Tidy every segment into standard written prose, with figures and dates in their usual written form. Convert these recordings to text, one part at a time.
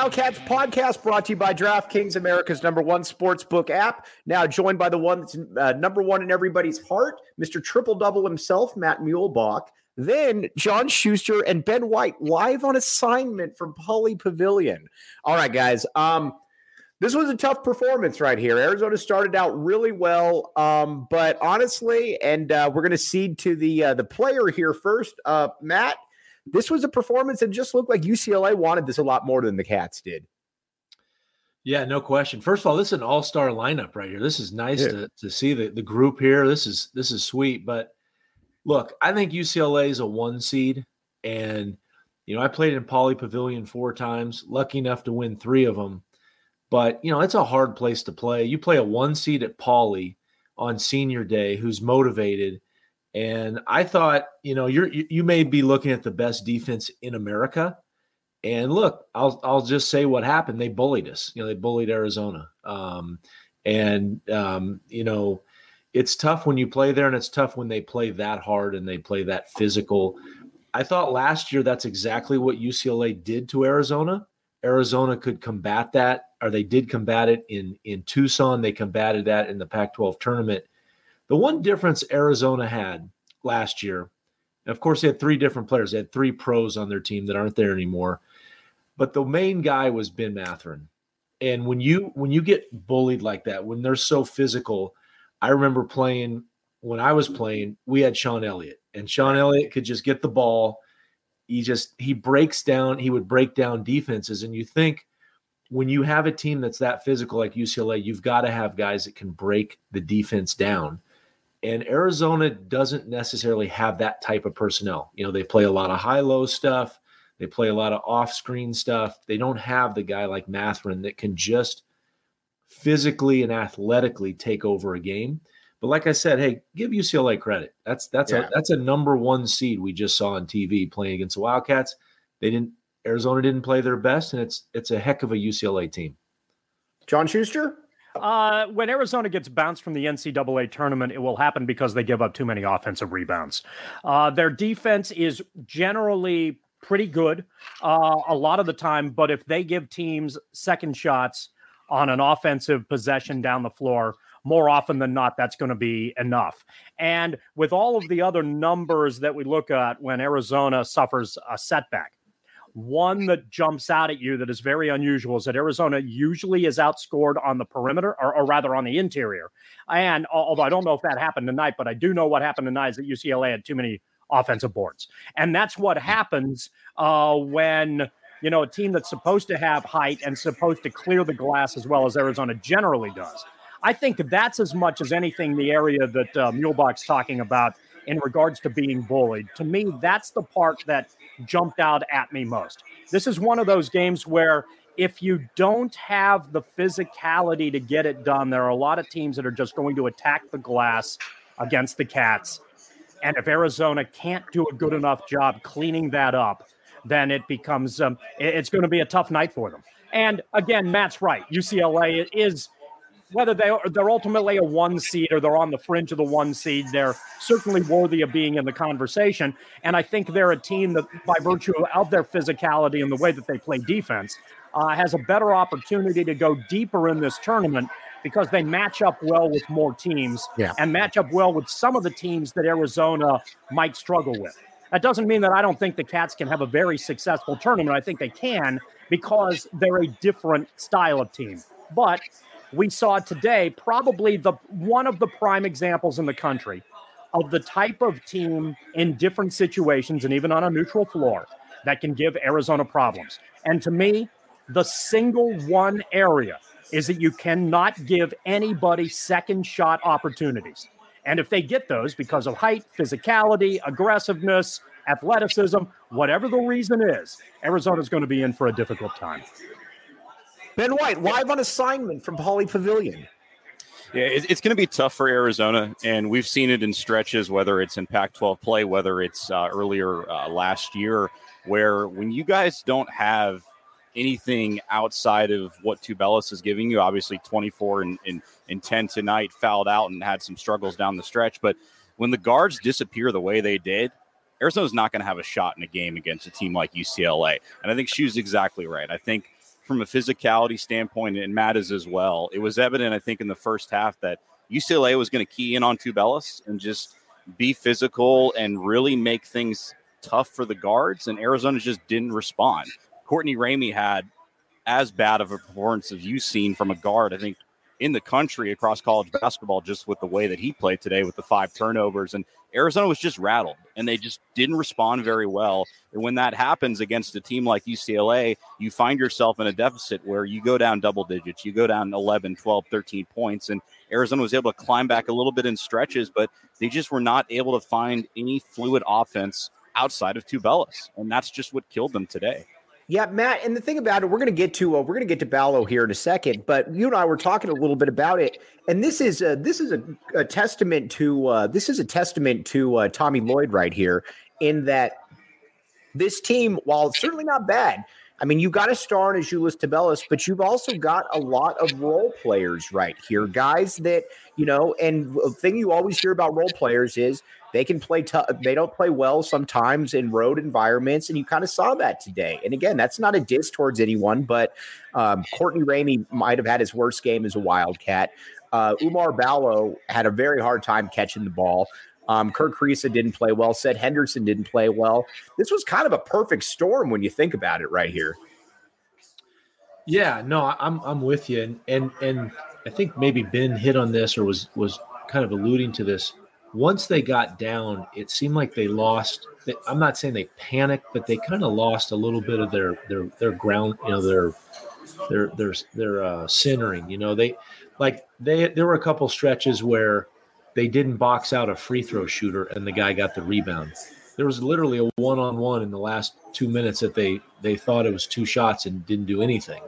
Wildcats podcast brought to you by DraftKings, America's #1 sportsbook app. Now joined by the one that's number one in everybody's heart, Mr. Triple Double himself, Matt Muehlbach. Then John Schuster and Ben White live on assignment from Pauley Pavilion. All right, guys. This was a tough performance right here. Arizona started out really well, but honestly, and we're going to cede to the player here first, Matt. This was a performance that just looked like UCLA wanted this a lot more than the Cats did. Yeah, no question. First of all, this is an all-star lineup right here. This is nice to see the group here. This is sweet. But look, I think UCLA is a 1 seed, and I played in Pauley Pavilion 4 times, lucky enough to win 3 of them. But it's a hard place to play. You play a 1 seed at Pauley on senior day, who's motivated. And I thought, you may be looking at the best defense in America. And look, I'll just say what happened. They bullied us. They bullied Arizona. It's tough when you play there, and it's tough when they play that hard and they play that physical. I thought last year that's exactly what UCLA did to Arizona. Arizona could combat that, or they did combat it in Tucson. They combated that in the Pac-12 tournament. The one difference Arizona had last year, of course, they had 3 different players. They had 3 pros on their team that aren't there anymore. But the main guy was Ben Mathurin. And when you get bullied like that, when they're so physical, I remember when I was playing, we had Sean Elliott. And Sean Elliott could just get the ball. He would break down defenses. And you think when you have a team that's that physical like UCLA, you've got to have guys that can break the defense down. And Arizona doesn't necessarily have that type of personnel. They play a lot of high-low stuff. They play a lot of off-screen stuff. They don't have the guy like Mathurin that can just physically and athletically take over a game. But like I said, hey, give UCLA credit. That's a number 1 seed we just saw on TV playing against the Wildcats. Arizona didn't play their best, and it's a heck of a UCLA team. John Schuster? When Arizona gets bounced from the NCAA tournament, it will happen because they give up too many offensive rebounds. Their defense is generally pretty good a lot of the time, but if they give teams second shots on an offensive possession down the floor, more often than not, that's going to be enough. And with all of the other numbers that we look at when Arizona suffers a setback, one that jumps out at you that is very unusual is that Arizona usually is outscored on the perimeter, or rather on the interior. And although I don't know if that happened tonight, but I do know what happened tonight is that UCLA had too many offensive boards. And that's what happens when, a team that's supposed to have height and supposed to clear the glass as well as Arizona generally does. I think that's as much as anything the area that Muehlbach's talking about in regards to being bullied. To me, that's the part that jumped out at me most. This is one of those games where if you don't have the physicality to get it done, there are a lot of teams that are just going to attack the glass against the Cats. And if Arizona can't do a good enough job cleaning that up, then it becomes it's going to be a tough night for them. And again, Matt's right. UCLA is, whether they're ultimately a 1 seed or they're on the fringe of the 1 seed, they're certainly worthy of being in the conversation. And I think they're a team that, by virtue of their physicality and the way that they play defense, has a better opportunity to go deeper in this tournament because they match up well with more teams and match up well with some of the teams that Arizona might struggle with. That doesn't mean that I don't think the Cats can have a very successful tournament. I think they can because they're a different style of team. But we saw today probably one of the prime examples in the country of the type of team in different situations and even on a neutral floor that can give Arizona problems. And to me, the single one area is that you cannot give anybody second shot opportunities. And if they get those because of height, physicality, aggressiveness, athleticism, whatever the reason is, Arizona's going to be in for a difficult time. Ben White, live on assignment from Pauley Pavilion. Yeah, it's going to be tough for Arizona, and we've seen it in stretches, whether it's in Pac-12 play, whether it's earlier last year, where when you guys don't have anything outside of what Tubelis is giving you, obviously 24 and 10 tonight, fouled out and had some struggles down the stretch. But when the guards disappear the way they did, Arizona's not going to have a shot in a game against a team like UCLA. And I think Shu's exactly right. I think from a physicality standpoint, and Matt is as well. It was evident, I think, in the first half that UCLA was going to key in on Tubelis and just be physical and really make things tough for the guards, and Arizona just didn't respond. Courtney Ramey had as bad of a performance as you've seen from a guard, I think, in the country across college basketball, just with the way that he played today with the 5 turnovers. And Arizona was just rattled, and they just didn't respond very well. And when that happens against a team like UCLA, you find yourself in a deficit where you go down double digits, you go down 11, 12, 13 points, and Arizona was able to climb back a little bit in stretches, but they just were not able to find any fluid offense outside of Tubelis, and that's just what killed them today. Yeah, Matt, and the thing about it, we're going to get to Ballo here in a second, but you and I were talking a little bit about it, and this is a testament to Tommy Lloyd right here, in that this team, while certainly not bad, I mean, you got a star in Azuolas Tubelis, but you've also got a lot of role players right here, guys that, and the thing you always hear about role players is they can play tough. They don't play well sometimes in road environments, and you kind of saw that today. And again, that's not a diss towards anyone, but Courtney Ramey might have had his worst game as a Wildcat. Oumar Ballo had a very hard time catching the ball. Kirk Kriisa didn't play well. Seth Henderson didn't play well. This was kind of a perfect storm when you think about it right here. Yeah, no, I'm with you. And I think maybe Ben hit on this or was kind of alluding to this. Once they got down, it seemed like they lost. I'm not saying they panicked, but they kind of lost a little bit of their ground, their centering. There were a couple stretches where they didn't box out a free throw shooter and the guy got the rebound. There was literally a one-on-one in the last 2 minutes that they thought it was 2 shots and didn't do anything.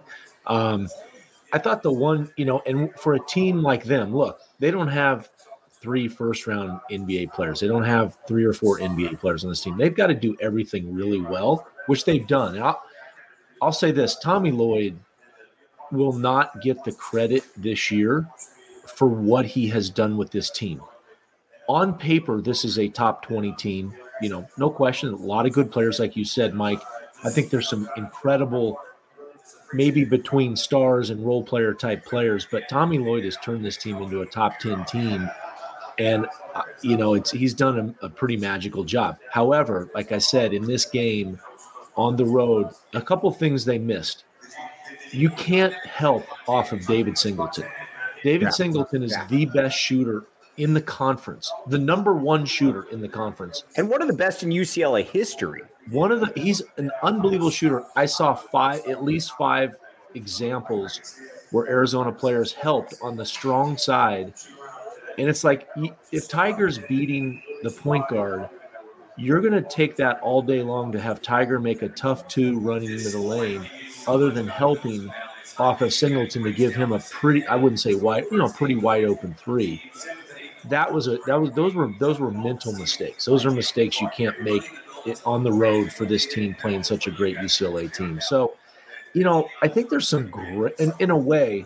I thought the one, and for a team like them, look, they don't have 3 first-round NBA players. They don't have 3 or 4 NBA players on this team. They've got to do everything really well, which they've done. And I'll say this, Tommy Lloyd will not get the credit this year for what he has done with this team. On paper, this is a top 20 team, no question. A lot of good players, like you said, Mike. I think there's some incredible, maybe between stars and role player type players, but Tommy Lloyd has turned this team into a top 10 team. And, he's done a pretty magical job. However, like I said, in this game on the road, a couple things they missed. You can't help off of David Singleton. David Singleton is the best shooter in the conference, the number 1 shooter in the conference. And one of the best in UCLA history. He's an unbelievable shooter. I saw at least 5 examples where Arizona players helped on the strong side. And it's like, if Tiger's beating the point guard, you're going to take that all day long to have Tiger make a tough 2 running into the lane, other than helping off of Singleton to give him a pretty, I wouldn't say wide, pretty wide open 3. Those were mental mistakes. Those are mistakes you can't make it on the road for this team playing such a great UCLA team. So, I think there's some great, in a way,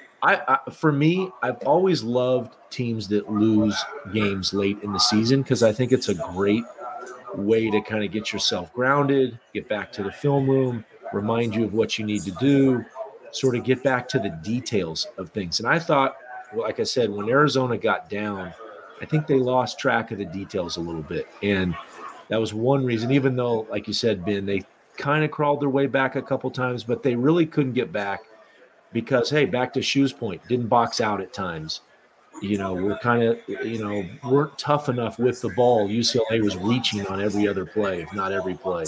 for me, I've always loved teams that lose games late in the season, because I think it's a great way to kind of get yourself grounded, get back to the film room, remind you of what you need to do, sort of get back to the details of things. And I thought, like I said, when Arizona got down, I think they lost track of the details a little bit. And that was one reason, even though, like you said, Ben, they kind of crawled their way back a couple times, but they really couldn't get back because, hey, back to Shu's point, didn't box out at times. We're kind of, weren't tough enough with the ball. UCLA was reaching on every other play, if not every play.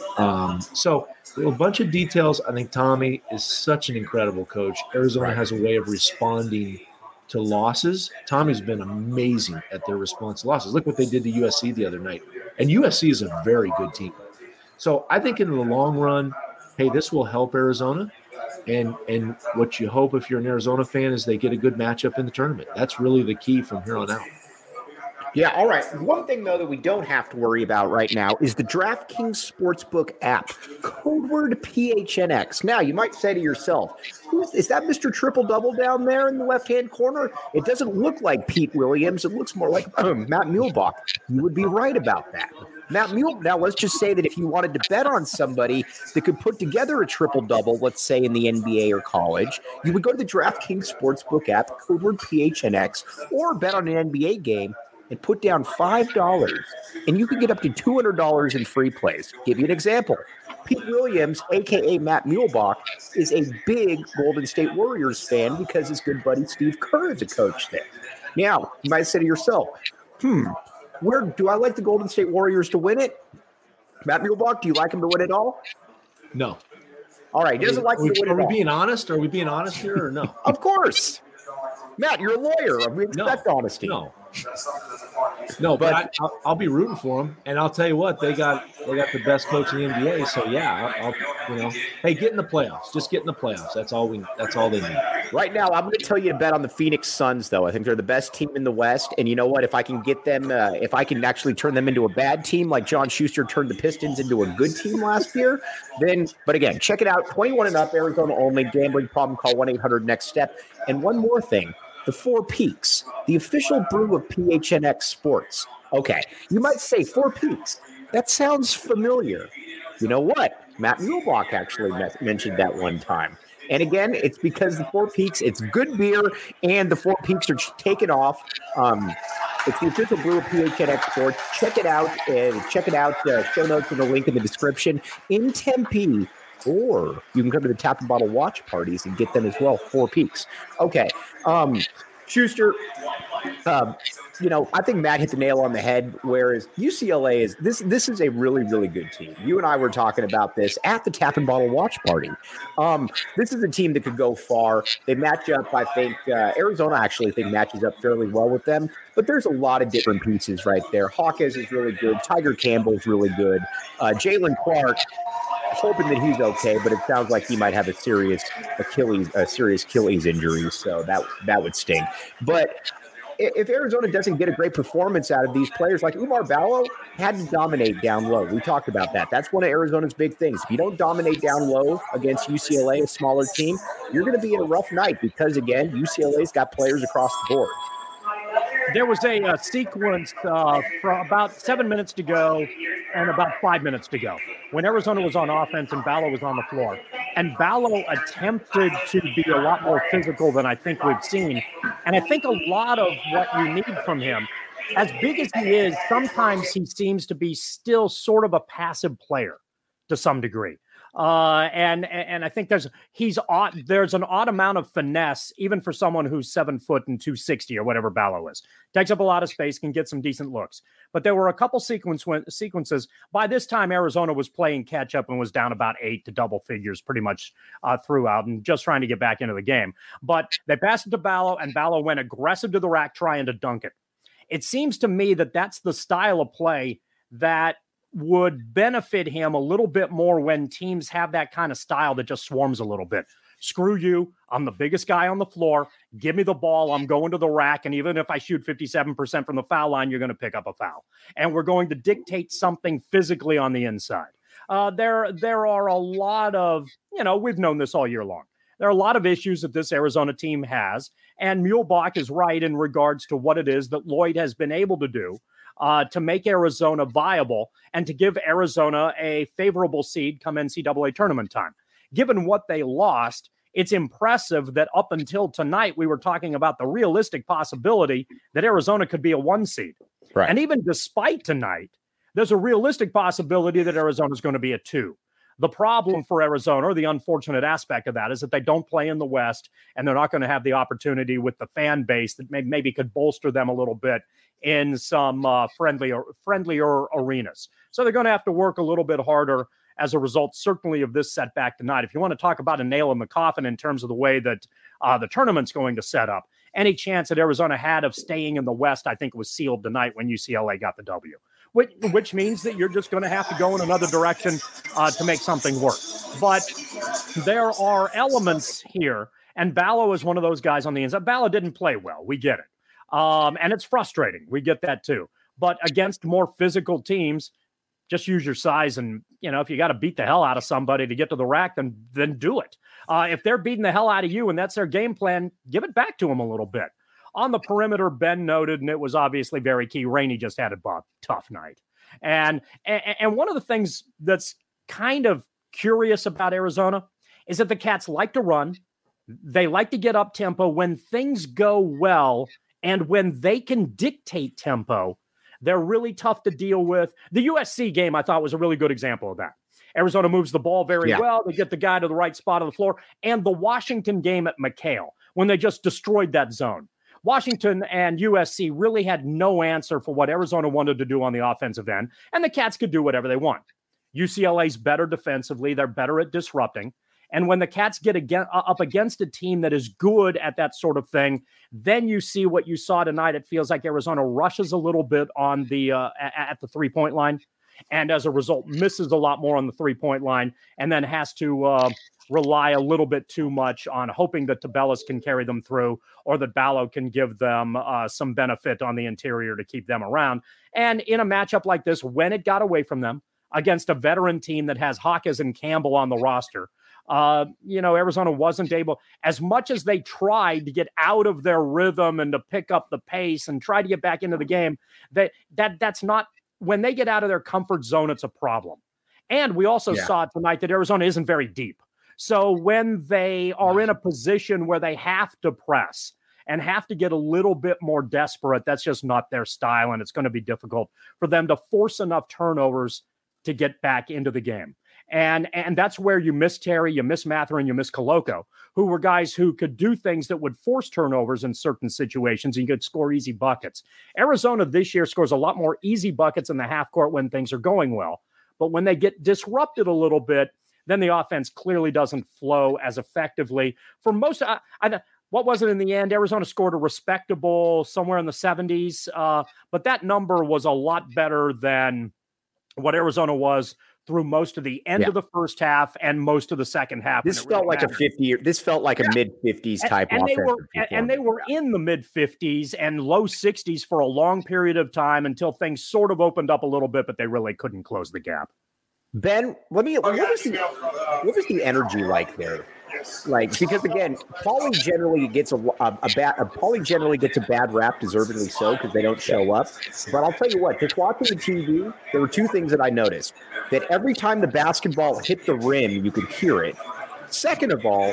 So a bunch of details. I think Tommy is such an incredible coach. Arizona has a way of responding to losses. Tommy's been amazing at their response to losses. Look what they did to USC the other night. And USC is a very good team. So I think in the long run, hey, this will help Arizona. And what you hope if you're an Arizona fan is they get a good matchup in the tournament. That's really the key from here on out. Yeah, all right. One thing, though, that we don't have to worry about right now is the DraftKings Sportsbook app, code word PHNX. Now, you might say to yourself, is that Mr. Triple Double down there in the left-hand corner? It doesn't look like Pete Williams. It looks more like Matt Muehlbach. You would be right about that. Matt Mule, now let's just say that if you wanted to bet on somebody that could put together a triple-double, let's say in the NBA or college, you would go to the DraftKings Sportsbook app, code word PHNX, or bet on an NBA game and put down $5, and you could get up to $200 in free plays. Give you an example. Pete Williams, a.k.a. Matt Muehlbach, is a big Golden State Warriors fan because his good buddy Steve Kerr is a coach there. Now, you might say to yourself, where do I like the Golden State Warriors to win it? Matt Muehlbach, do you like him to win it all? No. All right, he doesn't like him to win it all. Are we being honest? Are we being honest here or no? Of course. Matt, you're a lawyer. We expect honesty. No, but I'll be rooting for them, and I'll tell you what, they got the best coach in the NBA. So yeah, I'll hey, get in the playoffs. Just get in the playoffs. That's all they need. Right now, I'm going to tell you to bet on the Phoenix Suns, though. I think they're the best team in the West, and you know what? If I can get them, if I can actually turn them into a bad team, like John Schuster turned the Pistons into a good team last year, then. But again, check it out. 21 and up, Arizona only. Gambling problem? Call 1-800-NEXT-STEP. And one more thing. The Four Peaks, the official brew of PHNX Sports. Okay, you might say Four Peaks. That sounds familiar. You know what? Matt Muehlbach actually mentioned that one time. And again, it's because the Four Peaks, it's good beer, and the Four Peaks are taking off. It's the official brew of PHNX Sports. Check it out. Show notes with a link in the description. In Tempe, or you can come to the Tap and Bottle watch parties and get them as well. Four Peaks. Okay. Schuster, I think Matt hit the nail on the head, whereas UCLA is this is a really, really good team. You and I were talking about this at the Tap and Bottle watch party. This is a team that could go far. They match up, I think, Arizona actually matches up fairly well with them, but there's a lot of different pieces right there. Hawkins is really good. Tiger Campbell is really good. Jalen Clark, hoping that he's okay, but it sounds like he might have a serious Achilles injury, so that would sting. But if Arizona doesn't get a great performance out of these players, like Oumar Ballo had to dominate down low. We talked about that. That's one of Arizona's big things. If you don't dominate down low against UCLA, a smaller team, you're going to be in a rough night because, again, UCLA's got players across the board. There was a sequence for about 7 minutes to go and about 5 minutes to go when Arizona was on offense and Ballo was on the floor. And Ballo attempted to be a lot more physical than I think we've seen. And I think a lot of what you need from him, as big as he is, sometimes he seems to be still sort of a passive player to some degree. And I think there's an odd amount of finesse, even for someone who's 7 foot and 260 or whatever Ballo is. Takes up a lot of space, can get some decent looks. But there were a couple sequences. By this time, Arizona was playing catch up and was down about 8 to double figures pretty much throughout and just trying to get back into the game. But they passed it to Ballo, and Ballo went aggressive to the rack trying to dunk it. It seems to me that that's the style of play that would benefit him a little bit more when teams have that kind of style that just swarms a little bit. Screw you. I'm the biggest guy on the floor. Give me the ball. I'm going to the rack. And even if I shoot 57% from the foul line, you're going to pick up a foul. And we're going to dictate something physically on the inside. There are a lot of, we've known this all year long. There are a lot of issues that this Arizona team has. And Muehlbach is right in regards to what it is that Lloyd has been able to do to make Arizona viable and to give Arizona a favorable seed come NCAA tournament time. Given what they lost, it's impressive that up until tonight, we were talking about the realistic possibility that Arizona could be a 1 seed. Right. And even despite tonight, there's a realistic possibility that Arizona is going to be a 2. The problem for Arizona, or the unfortunate aspect of that, is that they don't play in the West, and they're not going to have the opportunity with the fan base that maybe could bolster them a little bit in some friendlier arenas. So they're going to have to work a little bit harder as a result, certainly, of this setback tonight. If you want to talk about a nail in the coffin in terms of the way that the tournament's going to set up, any chance that Arizona had of staying in the West, I think, was sealed tonight when UCLA got the W. Which means that you're just going to have to go in another direction to make something work. But there are elements here, and Ballo is one of those guys on the inside. Ballo didn't play well. We get it. And it's frustrating. We get that too. But against more physical teams, just use your size. And, if you got to beat the hell out of somebody to get to the rack, then do it. If they're beating the hell out of you and that's their game plan, give it back to them a little bit. On the perimeter, Ben noted, and it was obviously very key, Rainey just had a tough night. And one of the things that's kind of curious about Arizona is that the Cats like to run. They like to get up tempo when things go well, and when they can dictate tempo, they're really tough to deal with. The USC game, I thought, was a really good example of that. Arizona moves the ball very well. They get the guy to the right spot of the floor. And the Washington game at McHale, when they just destroyed that zone. Washington and USC really had no answer for what Arizona wanted to do on the offensive end, and the Cats could do whatever they want. UCLA's better defensively. They're better at disrupting. And when the Cats get up against a team that is good at that sort of thing, then you see what you saw tonight. It feels like Arizona rushes a little bit on the at the three-point line, and as a result, misses a lot more on the three-point line, and then has to rely a little bit too much on hoping that Tabellas can carry them through, or that Ballo can give them some benefit on the interior to keep them around. And in a matchup like this, when it got away from them against a veteran team that has Hawkins and Campbell on the roster, Arizona wasn't able, as much as they tried to get out of their rhythm and to pick up the pace and try to get back into the game, that's not, when they get out of their comfort zone, it's a problem. And we also saw tonight that Arizona isn't very deep. So when they are in a position where they have to press and have to get a little bit more desperate, that's just not their style, and it's going to be difficult for them to force enough turnovers to get back into the game. And that's where you miss Terry, you miss Mathurin, you miss Koloko, who were guys who could do things that would force turnovers in certain situations, and you could score easy buckets. Arizona this year scores a lot more easy buckets in the half court when things are going well. But when they get disrupted a little bit, then the offense clearly doesn't flow as effectively. For most, what was it in the end? Arizona scored a respectable somewhere in the 70s, but that number was a lot better than what Arizona was through most of the end of the first half and most of the second half. This felt like a mid-50s type offense. And they were in the mid-50s and low 60s for a long period of time until things sort of opened up a little bit, but they really couldn't close the gap. Ben, what was the energy like there? Like, because again, Paulie generally gets a bad rap, deservedly so, because they don't show up. But I'll tell you what, just watching the TV, there were two things that I noticed. That every time the basketball hit the rim, you could hear it. Second of all,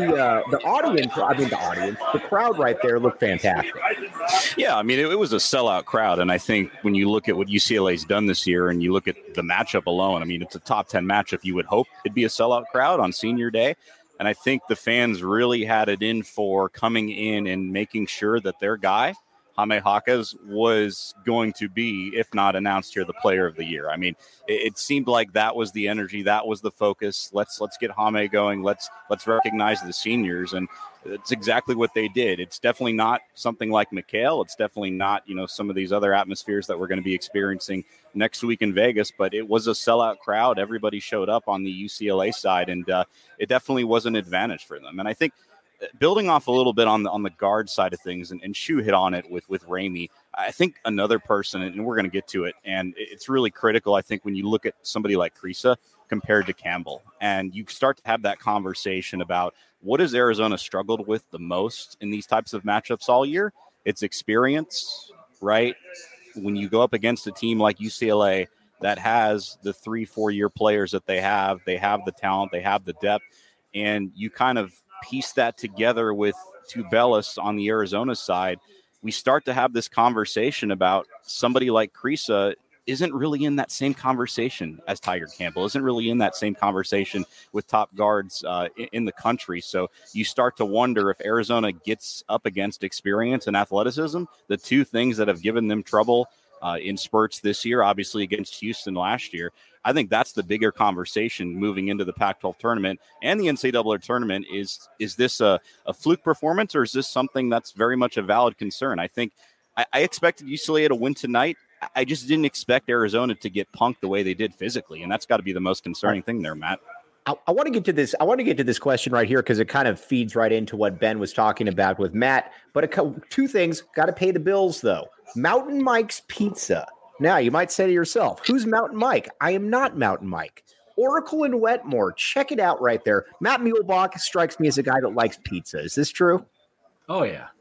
the crowd right there looked fantastic. Yeah, I mean, it was a sellout crowd. And I think when you look at what UCLA's done this year and you look at the matchup alone, I mean, it's a top 10 matchup. You would hope it'd be a sellout crowd on senior day. And I think the fans really had it in for coming in and making sure that their guy, Jaime Jaquez, was going to be, if not announced here, the player of the year. I mean, it seemed like that was the energy, that was the focus. Let's get Jaime going. Let's recognize the seniors, and it's exactly what they did. It's definitely not something like McHale. It's definitely not, some of these other atmospheres that we're going to be experiencing next week in Vegas, but it was a sellout crowd. Everybody showed up on the UCLA side, and it definitely was an advantage for them. And I think building off a little bit on the guard side of things, and Shu hit on it with Ramey, I think another person, and we're going to get to it, and it's really critical, I think, when you look at somebody like Kriisa compared to Campbell, and you start to have that conversation about what has Arizona struggled with the most in these types of matchups all year. It's experience, right? When you go up against a team like UCLA that has the 3-4 year players that they have the talent, they have the depth, and you kind of piece that together with Tubelis on the Arizona side, we start to have this conversation about somebody like Kriisa isn't really in that same conversation as Tiger Campbell, isn't really in that same conversation with top guards in the country. So you start to wonder if Arizona gets up against experience and athleticism, the two things that have given them trouble in spurts this year, obviously against Houston last year. I think that's the bigger conversation moving into the Pac-12 tournament and the NCAA tournament. Is this a fluke performance, or is this something that's very much a valid concern? I think I expected UCLA to win tonight. I just didn't expect Arizona to get punked the way they did physically, and that's got to be the most concerning thing there, Matt. I want to get to this. I want to get to this question right here because it kind of feeds right into what Ben was talking about with Matt. But two things: got to pay the bills, though. Mountain Mike's Pizza. Now, you might say to yourself, who's Mountain Mike? I am not Mountain Mike. Oracle and Wetmore. Check it out right there. Matt Muehlbach strikes me as a guy that likes pizza. Is this true? Oh, yeah.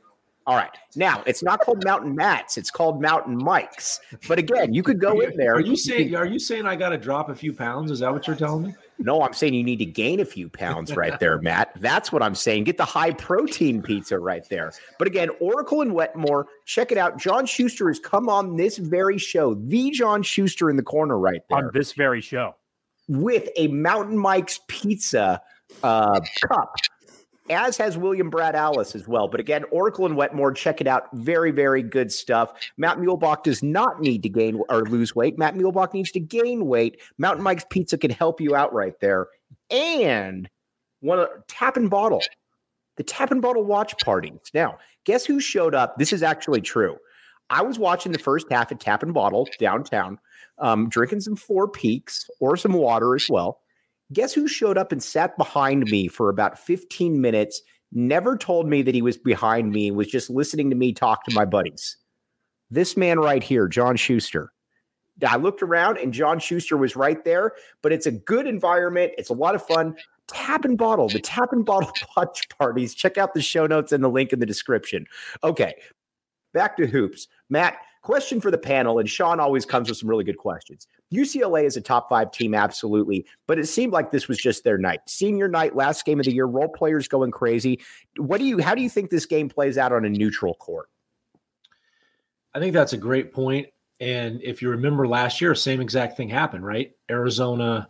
All right. Now, it's not called Mountain Mats. It's called Mountain Mikes. But again, you could go in there. Are you saying I got to drop a few pounds? Is that what you're telling me? No, I'm saying you need to gain a few pounds right there, Matt. That's what I'm saying. Get the high protein pizza right there. But again, Oracle and Wetmore, check it out. John Schuster has come on this very show, the John Schuster in the corner right there. On this very show. With a Mountain Mike's pizza cup, as has William Brad Alice as well. But again, Oracle and Wetmore, check it out. Very, very good stuff. Matt Muehlbach does not need to gain or lose weight. Matt Muehlbach needs to gain weight. Mountain Mike's Pizza can help you out right there. And Tap and Bottle. The Tap and Bottle watch parties. Now, guess who showed up? This is actually true. I was watching the first half at Tap and Bottle downtown, drinking some Four Peaks or some water as well. Guess who showed up and sat behind me for about 15 minutes, never told me that he was behind me, was just listening to me talk to my buddies? This man right here, John Schuster. I looked around and John Schuster was right there, but it's a good environment. It's a lot of fun. Tap and Bottle, the Tap and Bottle watch parties. Check out the show notes and the link in the description. Okay, back to hoops. Matt, question for the panel, and Sean always comes with some really good questions. UCLA is a top 5 team, absolutely, but it seemed like this was just their night. Senior night, last game of the year, role players going crazy. How do you think this game plays out on a neutral court? I think that's a great point. And if you remember last year, same exact thing happened, right? Arizona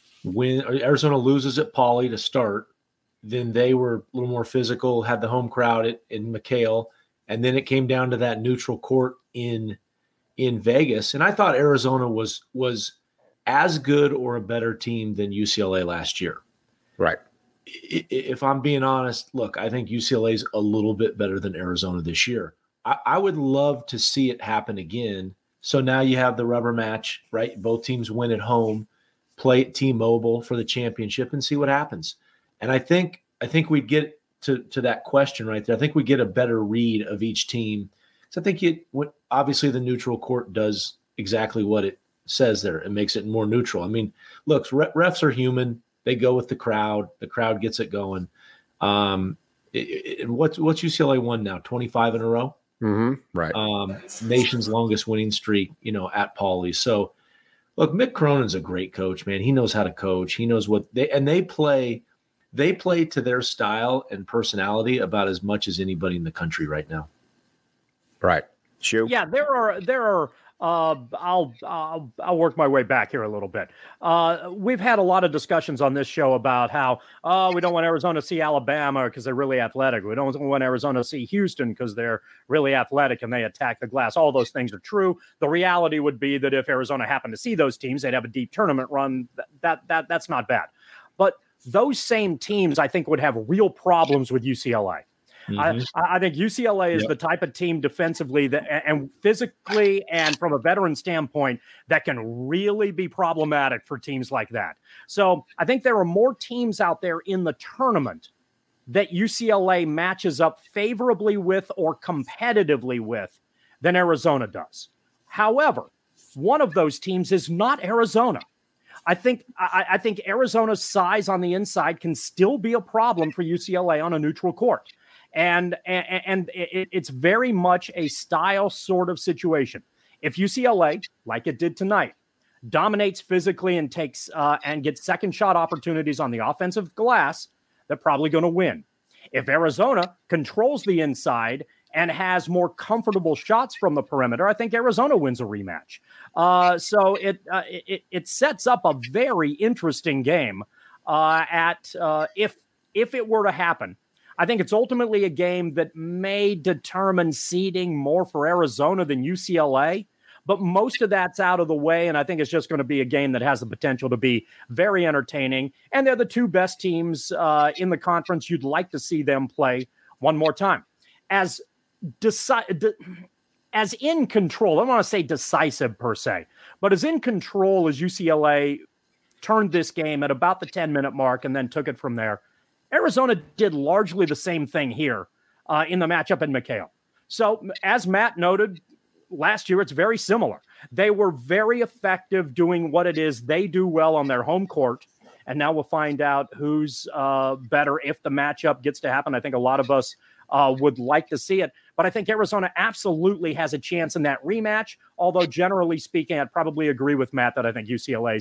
loses at Pauley to start. Then they were a little more physical, had the home crowd in McHale, and then it came down to that neutral court in Vegas. And I thought Arizona was as good or a better team than UCLA last year. Right. If I'm being honest, look, I think UCLA is a little bit better than Arizona this year. I would love to see it happen again. So now you have the rubber match, right? Both teams win at home, play at T-Mobile for the championship and see what happens. And I think we'd get to that question right there. I think we get a better read of each team. So I think obviously the neutral court does exactly what it says there. It makes it more neutral. I mean, look, refs are human. They go with the crowd. The crowd gets it going. What's UCLA won now? 25 in a row? Mm-hmm. Right. Nation's longest winning streak, at Pauley. So, look, Mick Cronin's a great coach, man. He knows how to coach. He knows what they play. They play to their style and personality about as much as anybody in the country right now. Right. Sure. Yeah, there are. I'll work my way back here a little bit. We've had a lot of discussions on this show about how we don't want Arizona to see Alabama because they're really athletic. We don't want Arizona to see Houston because they're really athletic and they attack the glass. All those things are true. The reality would be that if Arizona happened to see those teams, they'd have a deep tournament run. That's not bad. But those same teams, I think, would have real problems with UCLA. Mm-hmm. I think UCLA is the type of team defensively and physically and from a veteran standpoint that can really be problematic for teams like that. So I think there are more teams out there in the tournament that UCLA matches up favorably with or competitively with than Arizona does. However, one of those teams is not Arizona. I think Arizona's size on the inside can still be a problem for UCLA on a neutral court. And it's very much a style sort of situation. If UCLA, like it did tonight, dominates physically and takes and gets second shot opportunities on the offensive glass, they're probably going to win. If Arizona controls the inside and has more comfortable shots from the perimeter, I think Arizona wins a rematch. So it sets up a very interesting game. If it were to happen. I think it's ultimately a game that may determine seeding more for Arizona than UCLA, but most of that's out of the way, and I think it's just going to be a game that has the potential to be very entertaining, and they're the two best teams in the conference. You'd like to see them play one more time. As in control, I don't want to say decisive per se, but as in control as UCLA turned this game at about the 10-minute mark and then took it from there, Arizona did largely the same thing here in the matchup in McHale. So as Matt noted, last year it's very similar. They were very effective doing what it is they do well on their home court. And now we'll find out who's better if the matchup gets to happen. I think a lot of us would like to see it. But I think Arizona absolutely has a chance in that rematch. Although generally speaking, I'd probably agree with Matt that I think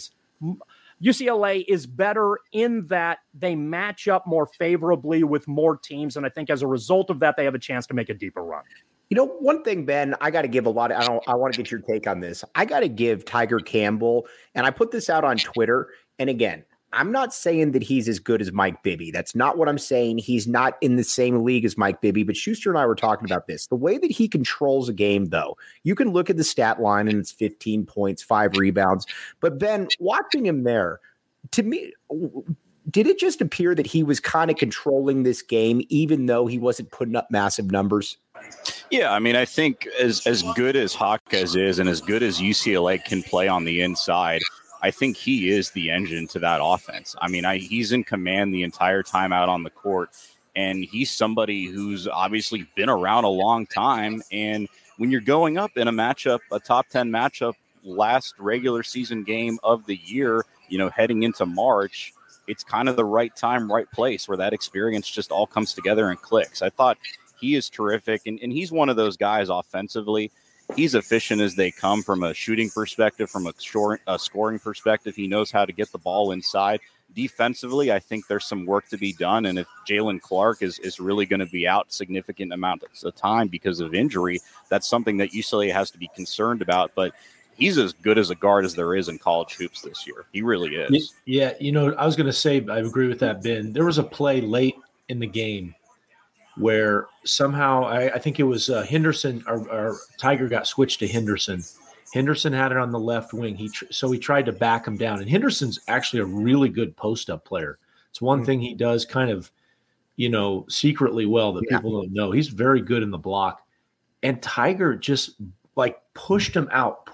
UCLA is better in that they match up more favorably with more teams. And I think as a result of that, they have a chance to make a deeper run. You know, one thing, Ben, I got to give a lot of, I want to get your take on this. I got to give Tiger Campbell, and I put this out on Twitter. And again, I'm not saying that he's as good as Mike Bibby. That's not what I'm saying. He's not in the same league as Mike Bibby, but Schuster and I were talking about this. The way that he controls a game, though, you can look at the stat line and it's 15 points, 5 rebounds. But Ben, watching him there, to me, did it just appear that he was kind of controlling this game, even though he wasn't putting up massive numbers? Yeah, I mean, I think as good as Jaquez is and as good as UCLA can play on the inside, I think he is the engine to that offense. I mean, he's in command the entire time out on the court, and he's somebody who's obviously been around a long time. And when you're going up in a matchup, a top 10 matchup, last regular season game of the year, you know, heading into March, it's kind of the right time, right place where that experience just all comes together and clicks. I thought he is terrific, and he's one of those guys offensively. He's efficient as they come from a shooting perspective, from a scoring perspective. He knows how to get the ball inside. Defensively, I think there's some work to be done, and if Jalen Clark is really going to be out significant amounts of time because of injury, that's something that UCLA has to be concerned about. But he's as good as a guard as there is in college hoops this year. He really is. Yeah, you know, I was going to say, I agree with that, Ben. There was a play late in the game where somehow I think it was Henderson or Tiger got switched to Henderson. Henderson had it on the left wing. So he tried to back him down. And Henderson's actually a really good post-up player. It's one thing he does kind of, you know, secretly well that people don't know. He's very good in the block. And Tiger just like pushed him out.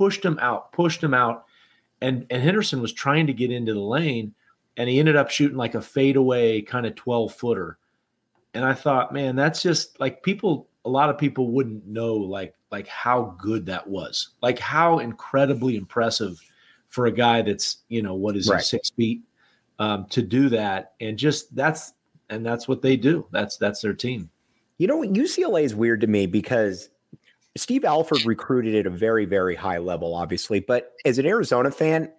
And Henderson was trying to get into the lane, and he ended up shooting like a fadeaway kind of 12-footer. And I thought, man, that's just like a lot of people wouldn't know like how good that was, like how incredibly impressive for a guy that's, you know, what is he, 6 feet, to do that. And just that's what they do. That's their team. You know, UCLA is weird to me because Steve Alford recruited at a very, very high level, obviously. But as an Arizona fan,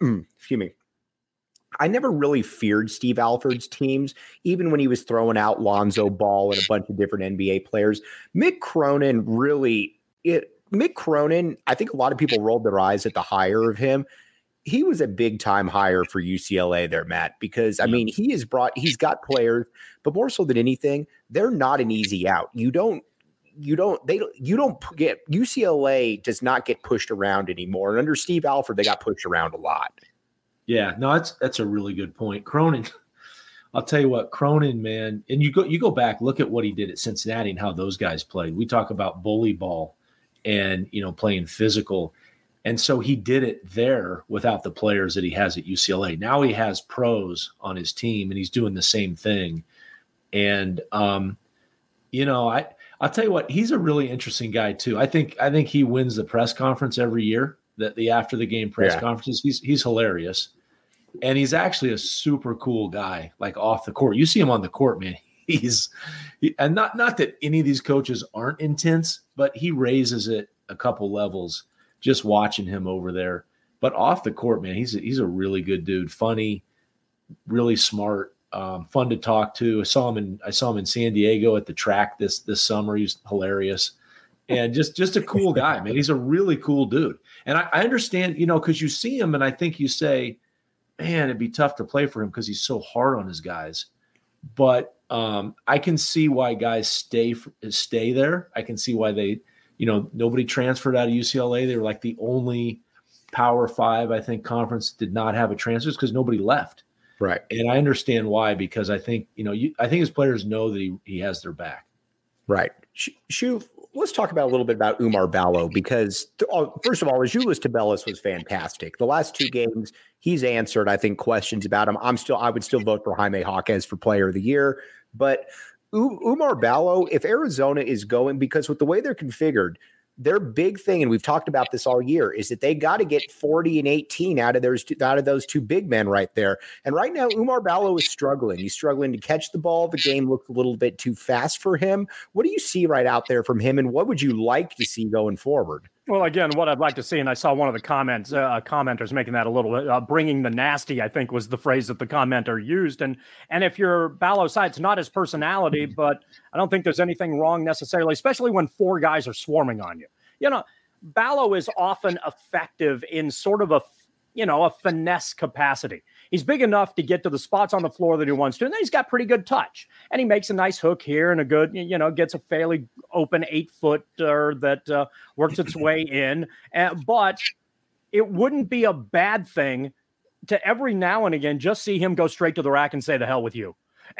I never really feared Steve Alford's teams, even when he was throwing out Lonzo Ball and a bunch of different NBA players. Mick Cronin, I think a lot of people rolled their eyes at the hire of him. He was a big time hire for UCLA there, Matt, because I mean, he's got players, but more so than anything, they're not an easy out. UCLA does not get pushed around anymore. And under Steve Alford, they got pushed around a lot. Yeah, no, that's a really good point. Cronin, I'll tell you what, Cronin, man, and you go back, look at what he did at Cincinnati and how those guys played. We talk about bully ball and, you know, playing physical. And so he did it there without the players that he has at UCLA. Now he has pros on his team and he's doing the same thing. And, you know, I'll tell you what, he's a really interesting guy too. I think he wins the press conference every year, the after the game press conferences. He's hilarious. And he's actually a super cool guy, like off the court. You see him on the court, man. And not that any of these coaches aren't intense, but he raises it a couple levels just watching him over there. But off the court, man, he's a really good dude. Funny, really smart, fun to talk to. I saw him in San Diego at the track this summer. He's hilarious. And just a cool guy, man. He's a really cool dude. And I understand, you know, because you see him and I think you say, man, it'd be tough to play for him because he's so hard on his guys. But I can see why guys stay there. I can see why they, you know, nobody transferred out of UCLA. They were like the only Power 5, I think, conference did not have a transfer because nobody left. Right. And I understand why, because I think, you know, I think his players know that he has their back. Right. Shuv, let's talk about a little bit about Oumar Ballo, because first of all, Azuolas Tubelis was fantastic. The last 2 games, he's answered, I think, questions about him. I would still vote for Jaime Jaquez for Player of the Year, but Oumar Ballo, if Arizona is going, because with the way they're configured, their big thing, and we've talked about this all year, is that they got to get 40 and 18 out of those two big men right there. And right now, Oumar Ballo is struggling. He's struggling to catch the ball. The game looks a little bit too fast for him. What do you see right out there from him, and what would you like to see going forward? Well, again, what I'd like to see, and I saw one of the commenters making that a little bringing the nasty, I think was the phrase that the commenter used. And if you're Ballo side, it's not his personality, but I don't think there's anything wrong necessarily, especially when four guys are swarming on you. You know, Ballo is often effective in sort of a finesse capacity. He's big enough to get to the spots on the floor that he wants to, and then he's got pretty good touch. And he makes a nice hook here and a good, gets a fairly open 8-footer that works its way in. But it wouldn't be a bad thing to every now and again just see him go straight to the rack and say, "The hell with you,"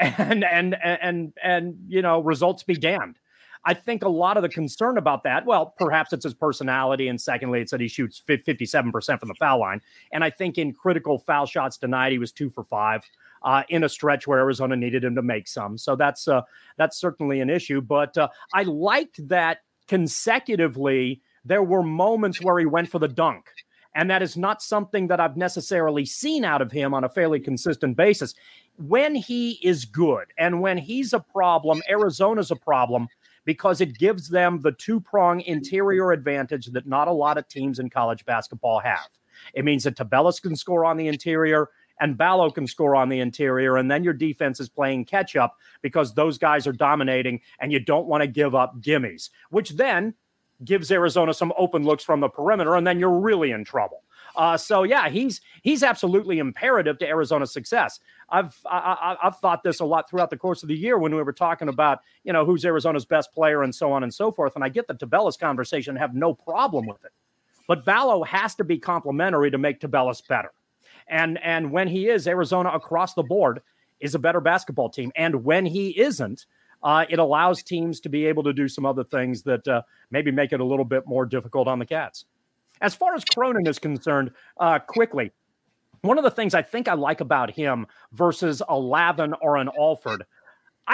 and results be damned. I think a lot of the concern about that, well, perhaps it's his personality, and secondly, it's that he shoots 57% from the foul line. And I think in critical foul shots denied, he was 2 for 5 in a stretch where Arizona needed him to make some. So that's certainly an issue. But I liked that consecutively there were moments where he went for the dunk. And that is not something that I've necessarily seen out of him on a fairly consistent basis. When he is good and when he's a problem, Arizona's a problem, because it gives them the two-prong interior advantage that not a lot of teams in college basketball have. It means that Tubelis can score on the interior and Ballo can score on the interior, and then your defense is playing catch-up because those guys are dominating and you don't want to give up gimmies, which then gives Arizona some open looks from the perimeter, and then you're really in trouble. He's absolutely imperative to Arizona's success. I've thought this a lot throughout the course of the year when we were talking about, who's Arizona's best player and so on and so forth. And I get the Tubelis conversation, have no problem with it. But Ballo has to be complementary to make Tubelis better. And when he is, Arizona across the board is a better basketball team. And when he isn't, it allows teams to be able to do some other things that maybe make it a little bit more difficult on the Cats. As far as Cronin is concerned, quickly, one of the things I think I like about him versus a Lavin or an Alford, I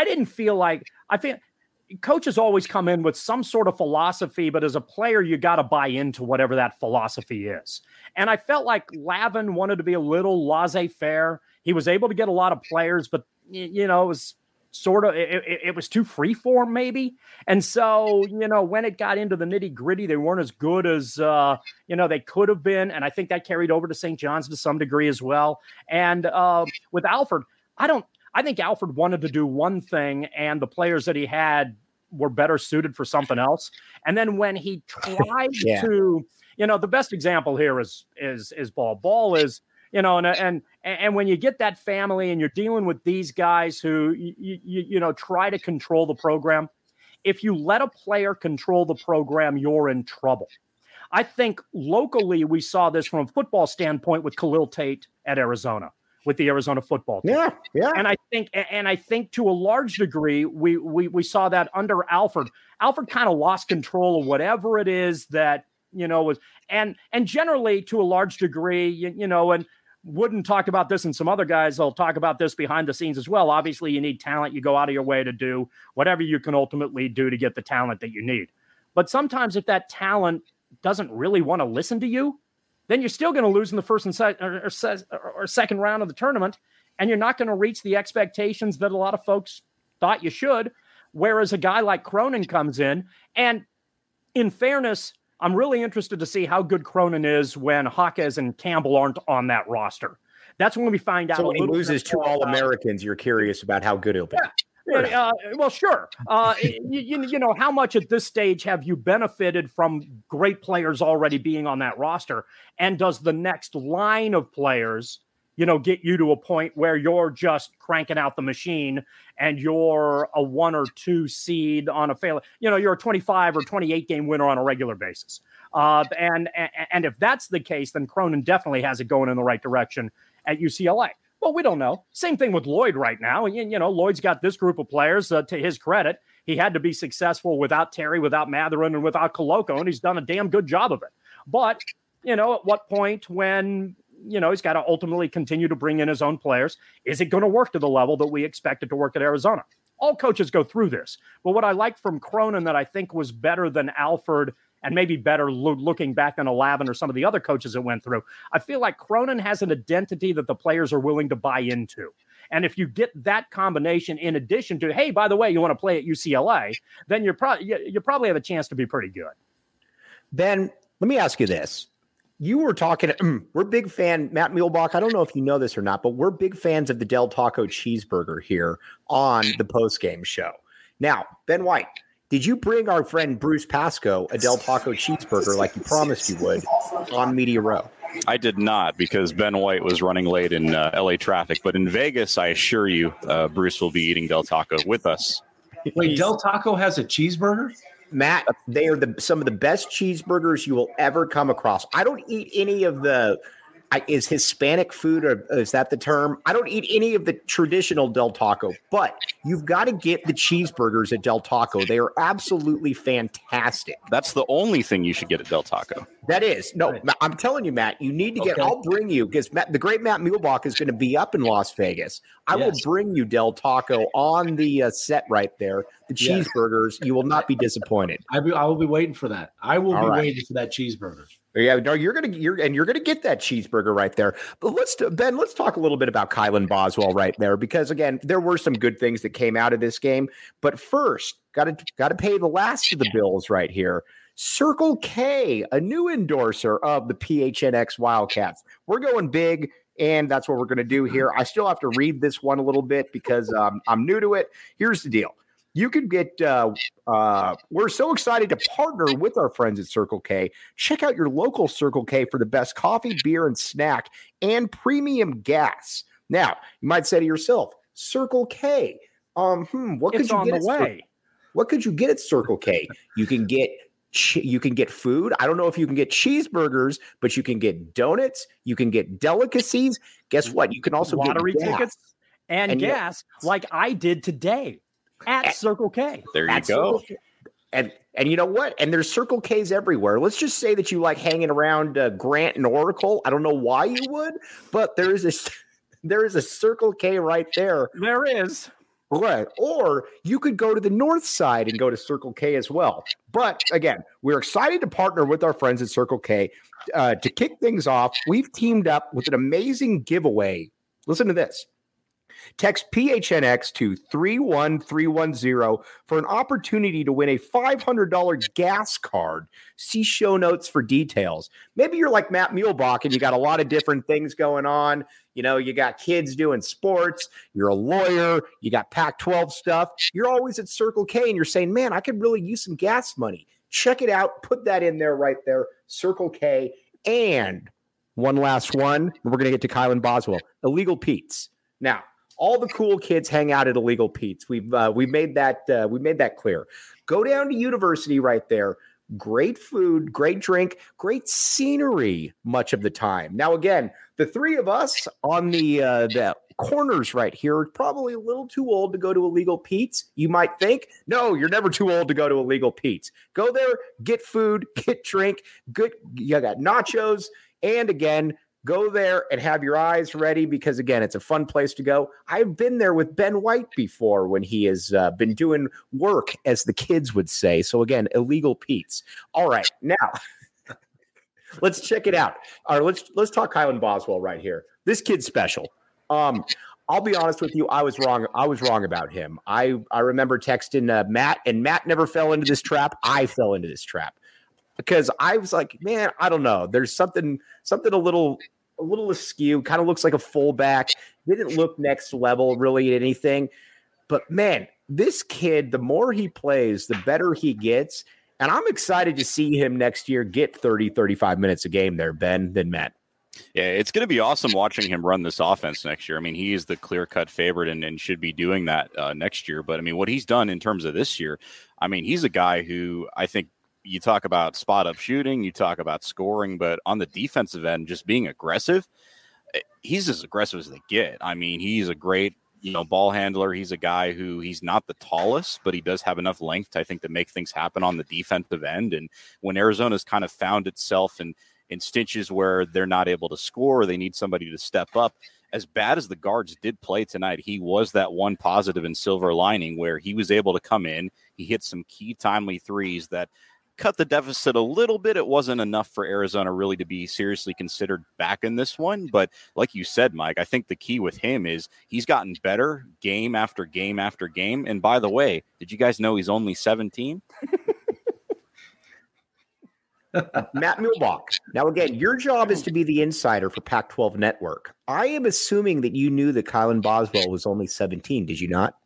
feel coaches always come in with some sort of philosophy, but as a player, you got to buy into whatever that philosophy is. And I felt like Lavin wanted to be a little laissez-faire. He was able to get a lot of players, but, it was it was too freeform maybe. And so, when it got into the nitty gritty, they weren't as good as, they could have been. And I think that carried over to St. John's to some degree as well. And with Alford, I think Alford wanted to do one thing and the players that he had were better suited for something else. And then when he tried to, the best example here is Ball. Ball is, and when you get that family and you're dealing with these guys who, try to control the program, if you let a player control the program, you're in trouble. I think locally we saw this from a football standpoint with Khalil Tate at Arizona, with the Arizona football team. Yeah. And I think to a large degree, we saw that under Alford. Alford kind of lost control of whatever it is that, was, and generally to a large degree, and Wooden talked about this, and some other guys will talk about this behind the scenes as well. Obviously, you need talent. You go out of your way to do whatever you can ultimately do to get the talent that you need. But sometimes if that talent doesn't really want to listen to you, then you're still going to lose in the first and second round of the tournament, and you're not going to reach the expectations that a lot of folks thought you should, whereas a guy like Cronin comes in. And in fairness, I'm really interested to see how good Cronin is when Jaquez and Campbell aren't on that roster. That's when we find out. So when he loses 2 All-Americans, you're curious about how good he'll be. Yeah. Well, sure. How much at this stage have you benefited from great players already being on that roster? And does the next line of players, get you to a point where you're just cranking out the machine and you're a 1 or 2 seed on a fail, you're a 25 or 28 game winner on a regular basis. And if that's the case, then Cronin definitely has it going in the right direction at UCLA. Well, we don't know. Same thing with Lloyd right now. And, Lloyd's got this group of players. To his credit, he had to be successful without Terry, without Matherin, and without Koloko, and he's done a damn good job of it. But, at what point when, he's got to ultimately continue to bring in his own players, is it going to work to the level that we expect it to work at Arizona? All coaches go through this. But what I liked from Cronin that I think was better than Alford and maybe better looking back than Alavin or some of the other coaches that went through. I feel like Cronin has an identity that the players are willing to buy into. And if you get that combination in addition to, hey, by the way, you want to play at UCLA, then you probably have a chance to be pretty good. Ben, let me ask you this. You were talking, we're big fan, Matt Muehlbach, I don't know if you know this or not, but we're big fans of the Del Taco cheeseburger here on the postgame show. Now, Ben White, did you bring our friend Bruce Pascoe a Del Taco cheeseburger like you promised you would on Media Row? I did not, because Ben White was running late in LA traffic. But in Vegas, I assure you, Bruce will be eating Del Taco with us. Wait, Del Taco has a cheeseburger? Matt, they are some of the best cheeseburgers you will ever come across. I don't eat any of the is Hispanic food, or is that the term? I don't eat any of the traditional Del Taco, but you've got to get the cheeseburgers at Del Taco. They are absolutely fantastic. That's the only thing you should get at Del Taco. That is. No, right. I'm telling you, Matt, you need to get, I'll bring you, because the great Matt Muehlbach is going to be up in Las Vegas. I will bring you Del Taco on the set right there. The cheeseburgers, you will not be disappointed. I will be waiting for that. I will be waiting for that cheeseburger. Yeah, no, you're gonna get that cheeseburger right there. But let's talk a little bit about Kylan Boswell right there, because again, there were some good things that came out of this game. But first, got to pay the last of the bills right here. Circle K, a new endorser of the PHNX Wildcats. We're going big, and that's what we're going to do here. I still have to read this one a little bit because I'm new to it. Here's the deal. You can get, we're so excited to partner with our friends at Circle K. Check out your local Circle K for the best coffee, beer, and snack, and premium gas. Now, you might say to yourself, Circle K, what could you get? What could you get at Circle K? You can get food. I don't know if you can get cheeseburgers, but you can get donuts. You can get delicacies. Guess what? You can also get lottery tickets and gas, like I did today. At Circle K. There you go. And you know what? And there's Circle K's everywhere. Let's just say that you like hanging around Grant and Oracle. I don't know why you would, but there is a Circle K right there. There is. Right. Or you could go to the north side and go to Circle K as well. But again, we're excited to partner with our friends at Circle K. To kick things off, we've teamed up with an amazing giveaway. Listen to this. Text PHNX to 31310 for an opportunity to win a $500 gas card. See show notes for details. Maybe you're like Matt Muehlbach and you got a lot of different things going on. You know, you got kids doing sports. You're a lawyer. You got Pac-12 stuff. You're always at Circle K and you're saying, man, I could really use some gas money. Check it out. Put that in there right there. Circle K. And one last one. And we're going to get to Kylan Boswell. Illegal Pete's. Now, all the cool kids hang out at Illegal Pete's. We've made that clear. Go down to University right there. Great food, great drink, great scenery much of the time. Now, again, the three of us on the corners right here are probably a little too old to go to Illegal Pete's. You might think, no, you're never too old to go to Illegal Pete's. Go there, get food, get drink, good. You got nachos, and again, go there and have your eyes ready because, again, it's a fun place to go. I've been there with Ben White before when he has been doing work, as the kids would say. So, again, Illegal Pete's. All right, now let's check it out. All right, let's talk Kylan Boswell right here. This kid's special. I'll be honest with you. I was wrong. I was wrong about him. I remember texting Matt, and Matt never fell into this trap. I fell into this trap because I was like, man, I don't know. There's something a little askew, kind of looks like a fullback. Didn't look next level really at anything. But man, this kid, the more he plays, the better he gets. And I'm excited to see him next year get 30, 35 minutes a game there, Ben, than Matt. Yeah, it's going to be awesome watching him run this offense next year. I mean, he is the clear-cut favorite and should be doing that next year. But, I mean, what he's done in terms of this year, I mean, he's a guy who I think you talk about spot-up shooting, you talk about scoring, but on the defensive end, just being aggressive, he's as aggressive as they get. I mean, he's a great, ball handler. He's a guy who he's not the tallest, but he does have enough length, I think, to make things happen on the defensive end. And when Arizona's kind of found itself in stitches where they're not able to score, or they need somebody to step up, as bad as the guards did play tonight, he was that one positive and silver lining where he was able to come in. He hit some key timely threes that cut the deficit a little bit. It wasn't enough for Arizona really to be seriously considered back in this one. But like you said, Mike, I think the key with him is he's gotten better game after game after game. And by the way, did you guys know he's only 17? Matt Muehlbach. Now, again, your job is to be the insider for Pac-12 Network. I am assuming that you knew that Kylan Boswell was only 17. Did you not?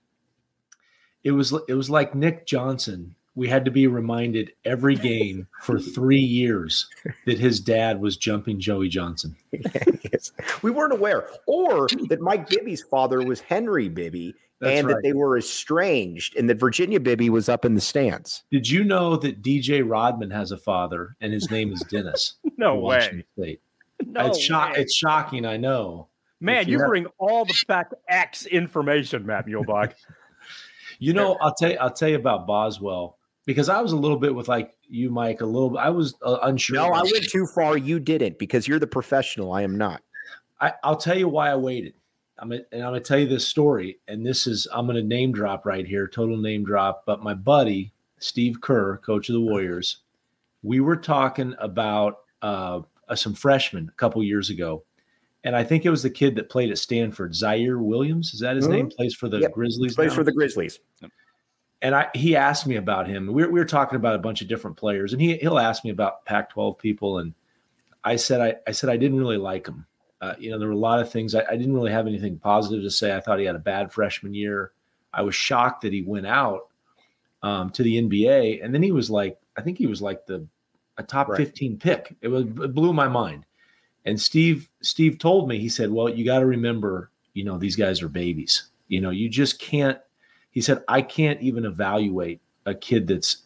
It was like Nick Johnson. We had to be reminded every game for 3 years that his dad was jumping Joey Johnson. Yes. We weren't aware. Or that Mike Bibby's father was Henry Bibby. That's that right. they were estranged and that Virginia Bibby was up in the stands. Did you know that DJ Rodman has a father and his name is Dennis? No from way. Washington State? No It's way. it's shocking, I know. Man, you bring all the fact X information, Matt Muehlbach. You know, I'll tell you about Boswell because I was a little bit with like you, Mike. I was unsure. No, I went too far. You didn't because you're the professional. I am not. I'll tell you why I waited. I'm gonna tell you this story, and I'm gonna name drop right here, total name drop. But my buddy Steve Kerr, coach of the Warriors, we were talking about some freshmen a couple years ago, and I think it was the kid that played at Stanford, Zaire Williams. Is that his name? Plays for the Grizzlies. Plays now? for the Grizzlies. And he asked me about him. We were talking about a bunch of different players, and he'll ask me about Pac-12 people, and I said I didn't really like him. There were a lot of things. I didn't really have anything positive to say. I thought he had a bad freshman year. I was shocked that he went out to the NBA, and then he was like, I think he was like a top 15 pick. It blew my mind. And Steve told me, he said, well, you got to remember, these guys are babies. You just can't. He said, I can't even evaluate a kid that's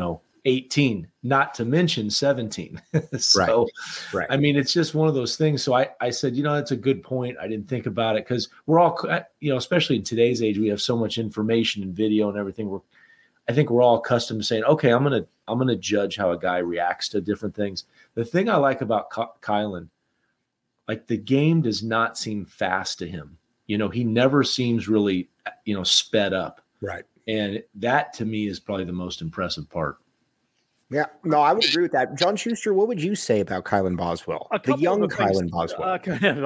18, not to mention 17. So, right. I mean, it's just one of those things. So I said, that's a good point. I didn't think about it because we're all, especially in today's age, we have so much information and video and everything. I think we're all accustomed to saying, okay, I'm going to judge how a guy reacts to different things. The thing I like about Kylan, like the game does not seem fast to him. He never seems really, sped up. Right. And that to me is probably the most impressive part. Yeah, no, I would agree with that. John Schuster, what would you say about Kylan Boswell, the young Kylan Boswell?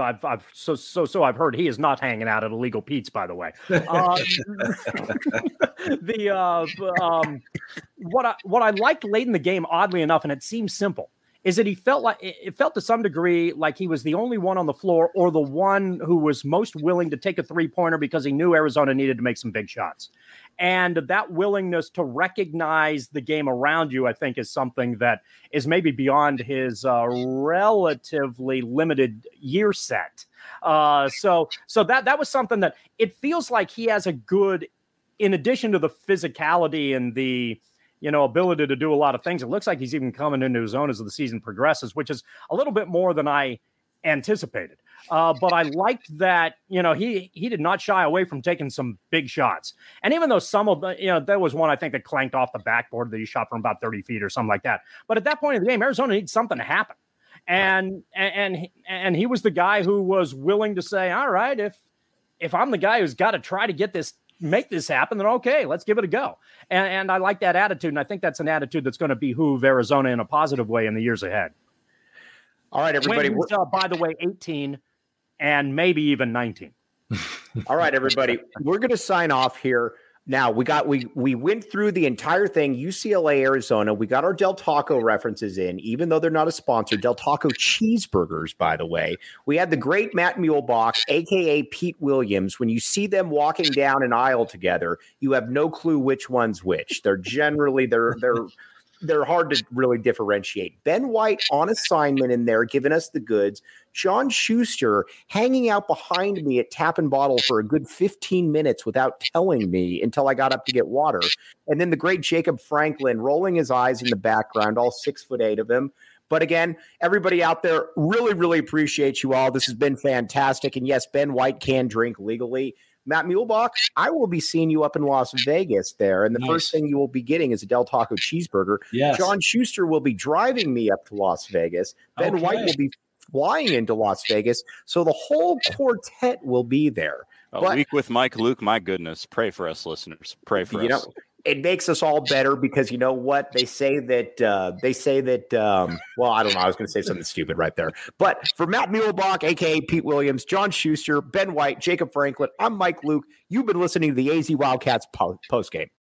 I've heard he is not hanging out at Illegal Pete's, by the way. What I liked late in the game, oddly enough, and it seems simple, is that it felt to some degree like he was the only one on the floor or the one who was most willing to take a three-pointer because he knew Arizona needed to make some big shots. And that willingness to recognize the game around you, I think, is something that is maybe beyond his relatively limited year set. So that was something that it feels like he has a good, in addition to the physicality and the ability to do a lot of things. It looks like he's even coming into his own as the season progresses, which is a little bit more than I anticipated. But I liked that, he did not shy away from taking some big shots. And even though some of the, there was one, I think, that clanked off the backboard that he shot from about 30 feet or something like that. But at that point in the game, Arizona needs something to happen. And he was the guy who was willing to say, all right, if I'm the guy who's got to try to make this happen, then okay, let's give it a go. And I like that attitude. And I think that's an attitude that's going to behoove Arizona in a positive way in the years ahead. All right, everybody. By the way, 18 and maybe even 19. All right, everybody. We're going to sign off here. Now, we went through the entire thing, UCLA, Arizona. We got our Del Taco references in, even though they're not a sponsor. Del Taco cheeseburgers, by the way. We had the great Matt Muehlbach, a.k.a. Pete Williams. When you see them walking down an aisle together, you have no clue which one's which. They're generally, they're hard to really differentiate. Ben White on assignment in there, giving us the goods. John Schuster hanging out behind me at Tap and Bottle for a good 15 minutes without telling me until I got up to get water. And then the great Jacob Franklin rolling his eyes in the background, all 6'8" of him. But again, everybody out there, really, really appreciate you all. This has been fantastic. And yes, Ben White can drink legally. Matt Muehlbach, I will be seeing you up in Las Vegas there. And the first thing you will be getting is a Del Taco cheeseburger. Yes. John Schuster will be driving me up to Las Vegas. Ben White will be flying into Las Vegas. So the whole quartet will be there. A week with Mike Luke, my goodness. Pray for us, listeners. Pray for us. it makes us all better because you know what? They say that, well, I don't know. I was going to say something stupid right there. But for Matt Muehlbach, a.k.a. Pete Williams, John Schuster, Ben White, Jacob Franklin, I'm Mike Luke. You've been listening to the AZ Wildcats postgame.